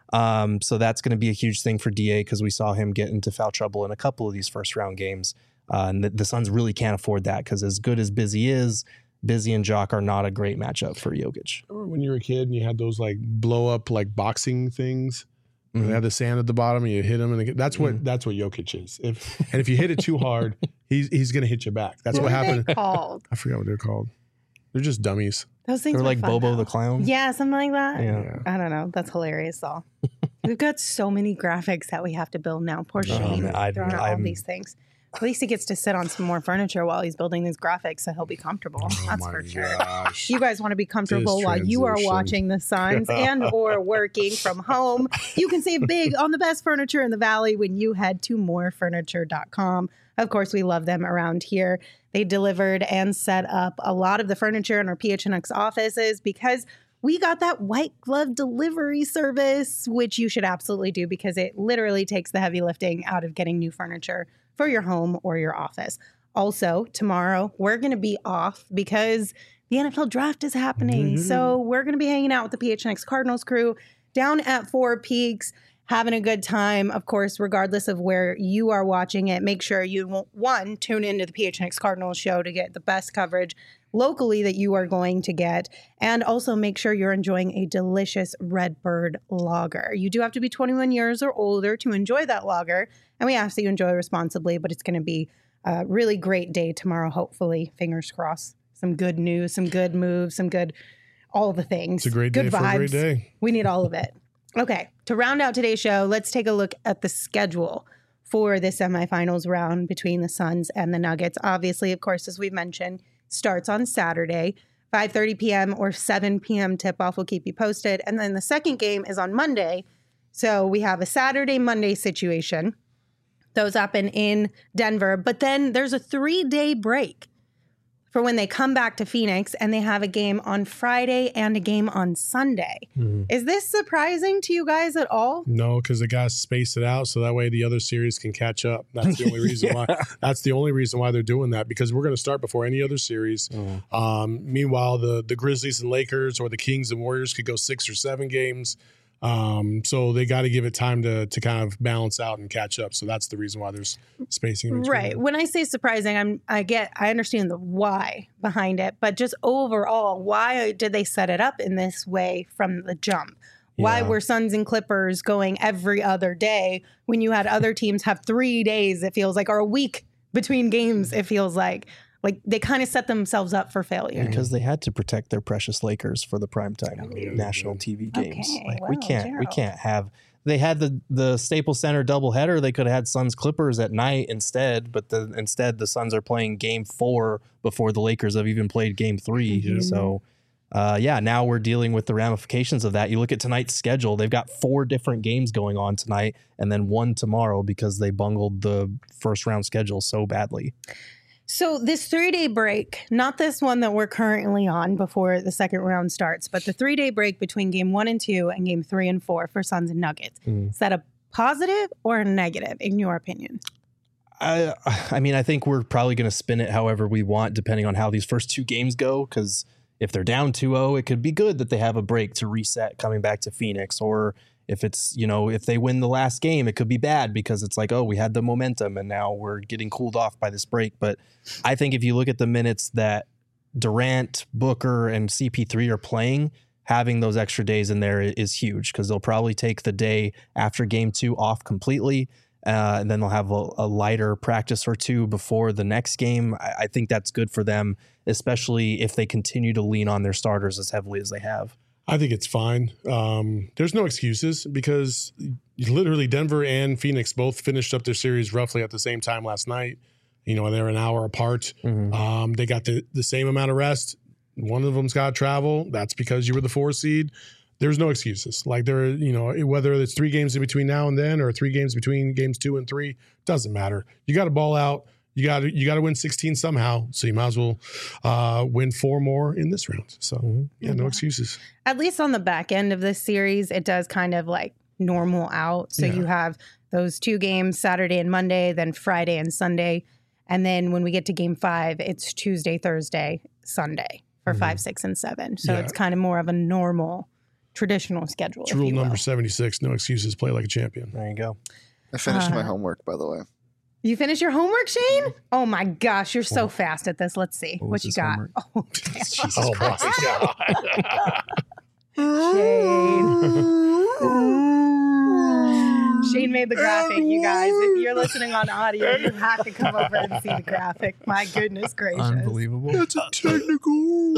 So that's going to be a huge thing for DA because we saw him get into foul trouble in a couple of these first round games. And the Suns really can't afford that because as good as Busy is, Busy and Jock are not a great matchup for Jokic. Remember when you were a kid and you had those like blow up like boxing things? They have the sand at the bottom and you hit him, and that's what Jokic is. If you hit it too hard, he's going to hit you back. That's what happened. What are they called? I forgot what they're called. They're just dummies. Those things They're were like fun, Bobo though. the Clown. Yeah, something like that. Yeah. I don't know. That's hilarious, though. We've got so many graphics that we have to build now. Poor Shane. man, throwing out all these things. At least he gets to sit on some more furniture while he's building these graphics, so he'll be comfortable. That's for sure. Gosh. You guys want to be comfortable This while you are transition. watching the Suns and or working from home. You can save big on the best furniture in the Valley when you head to morefurniture.com. Of course, we love them around here. They delivered and set up a lot of the furniture in our PHNX offices because we got that white glove delivery service, which you should absolutely do because it literally takes the heavy lifting out of getting new furniture for your home or your office. Also, tomorrow, we're going to be off because the NFL draft is happening. So we're going to be hanging out with the PHNX Cardinals crew down at Four Peaks, having a good time. Of course, regardless of where you are watching it, make sure you, one, tune into the PHNX Cardinals show to get the best coverage locally that you are going to get. And also make sure you're enjoying a delicious Redbird lager. You do have to be 21 years or older to enjoy that lager. And we ask that you enjoy responsibly, but it's going to be a really great day tomorrow, hopefully. Fingers crossed. Some good news, some good moves, some good, all the things. It's a great day good for vibes. a great day. We need all of it. Okay, to round out today's show, let's take a look at the schedule for the semifinals round between the Suns and the Nuggets. Obviously, of course, as we've mentioned, starts on Saturday, 5:30 p.m. or 7 p.m. tip-off. We'll keep you posted. And then the second game is on Monday. So we have a Saturday-Monday situation. Those happen in Denver. But then there's a 3-day break for when they come back to Phoenix and they have a game on Friday and a game on Sunday. Is this surprising to you guys at all? No, because they got to space it out so that way the other series can catch up. That's the only reason why. That's the only reason why they're doing that, because we're going to start before any other series. Meanwhile, the Grizzlies and Lakers or the Kings and Warriors could go 6 or 7 games. So they got to give it time to kind of balance out and catch up. So that's the reason why there's spacing in between. Right. When I say surprising, I understand the why behind it, but just overall, why did they set it up in this way from the jump? Why were Suns and Clippers going every other day when you had other teams have 3 days, it feels like, or a week between games, it feels like? Like they kind of set themselves up for failure. Because they had to protect their precious Lakers for the primetime national TV games. Okay, Like well, we can't have. They had the Staples Center doubleheader. They could have had Suns Clippers at night instead, but instead the Suns are playing Game 4 before the Lakers have even played Game 3. So, now we're dealing with the ramifications of that. You look at tonight's schedule; they've got 4 different games going on tonight, and then 1 tomorrow because they bungled the first round schedule so badly. So this 3-day break, not this one that we're currently on before the second round starts, but the 3-day break between game 1 and 2 and game 3 and 4 for Suns and Nuggets. Is that a positive or a negative in your opinion? I mean, I think we're probably going to spin it however we want, depending on how these first 2 games go. Because if they're down 2-0, it could be good that they have a break to reset coming back to Phoenix. Or if it's, if they win the last game, it could be bad because it's like, oh, we had the momentum and now we're getting cooled off by this break. But I think if you look at the minutes that Durant, Booker, and CP3 are playing, having those extra days in there is huge because they'll probably take the day after game 2 off completely. and then they'll have a lighter practice or two before the next game. I think that's good for them, especially if they continue to lean on their starters as heavily as they have. I think it's fine. There's no excuses because literally Denver and Phoenix both finished up their series roughly at the same time last night. They're an hour apart. They got the same amount of rest. One of them's got travel. That's because you were the 4 seed. There's no excuses. Like whether it's 3 games in between now and then or 3 games between games 2 and 3, doesn't matter. You got to ball out. You got to win 16 somehow. So you might as well win 4 more in this round. So no excuses. At least on the back end of this series, it does kind of like normal out. So you have those 2 games, Saturday and Monday, then Friday and Sunday. And then when we get to game 5, it's Tuesday, Thursday, Sunday for 5, 6, and 7. So it's kind of more of a normal, traditional schedule. It's rule number 76. No excuses. Play like a champion. There you go. I finished my homework, by the way. You finished your homework, Shane? Oh my gosh, you're so fast at this. Let's see what you got. Homework? Oh, Jesus Christ. Shane made the graphic, you guys. If you're listening on audio, you have to come over and see the graphic. My goodness gracious. Unbelievable. That's a technical.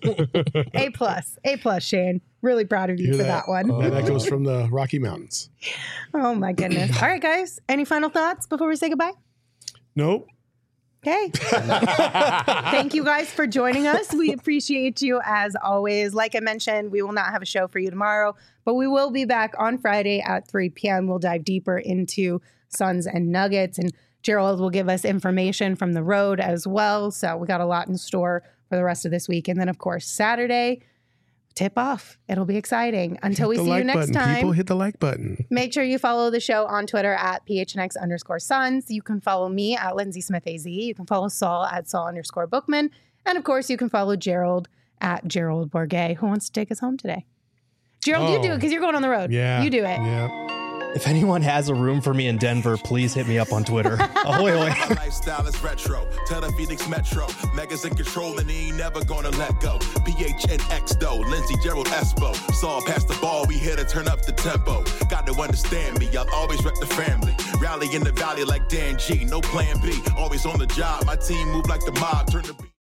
A+, Shane. Really proud of you for that one. And that goes from the Rocky Mountains. Oh my goodness. All right, guys. Any final thoughts before we say goodbye? Nope. Okay. Thank you guys for joining us. We appreciate you as always. Like I mentioned, we will not have a show for you tomorrow, but we will be back on Friday at 3 p.m. We'll dive deeper into Suns and Nuggets, and Gerald will give us information from the road as well. So we got a lot in store for the rest of this week. And then, of course, Saturday, tip off. It'll be exciting. Until we see you next time. People hit the like button. Make sure you follow the show on Twitter at PHNX_Suns. You can follow me at Lindsay Smith AZ. You can follow Saul at Saul_Bookman. And of course, you can follow Gerald at Gerald Bourget. Who wants to take us home today? Gerald, you do it because you're going on the road. Yeah. You do it. Yeah. If anyone has a room for me in Denver, please hit me up on Twitter. Ahoy, ahoy. Lifestyle is retro. Tell the Phoenix Metro. Megas in control and he ain't never gonna let go. PHNX though. Lindsey, Gerald, Espo. Saw past the ball. We here to turn up the tempo. Got to understand me. I'll always rep the family. Rally in the valley like Dan G. No plan B. Always on the job. My team move like the mob. Turn the beat.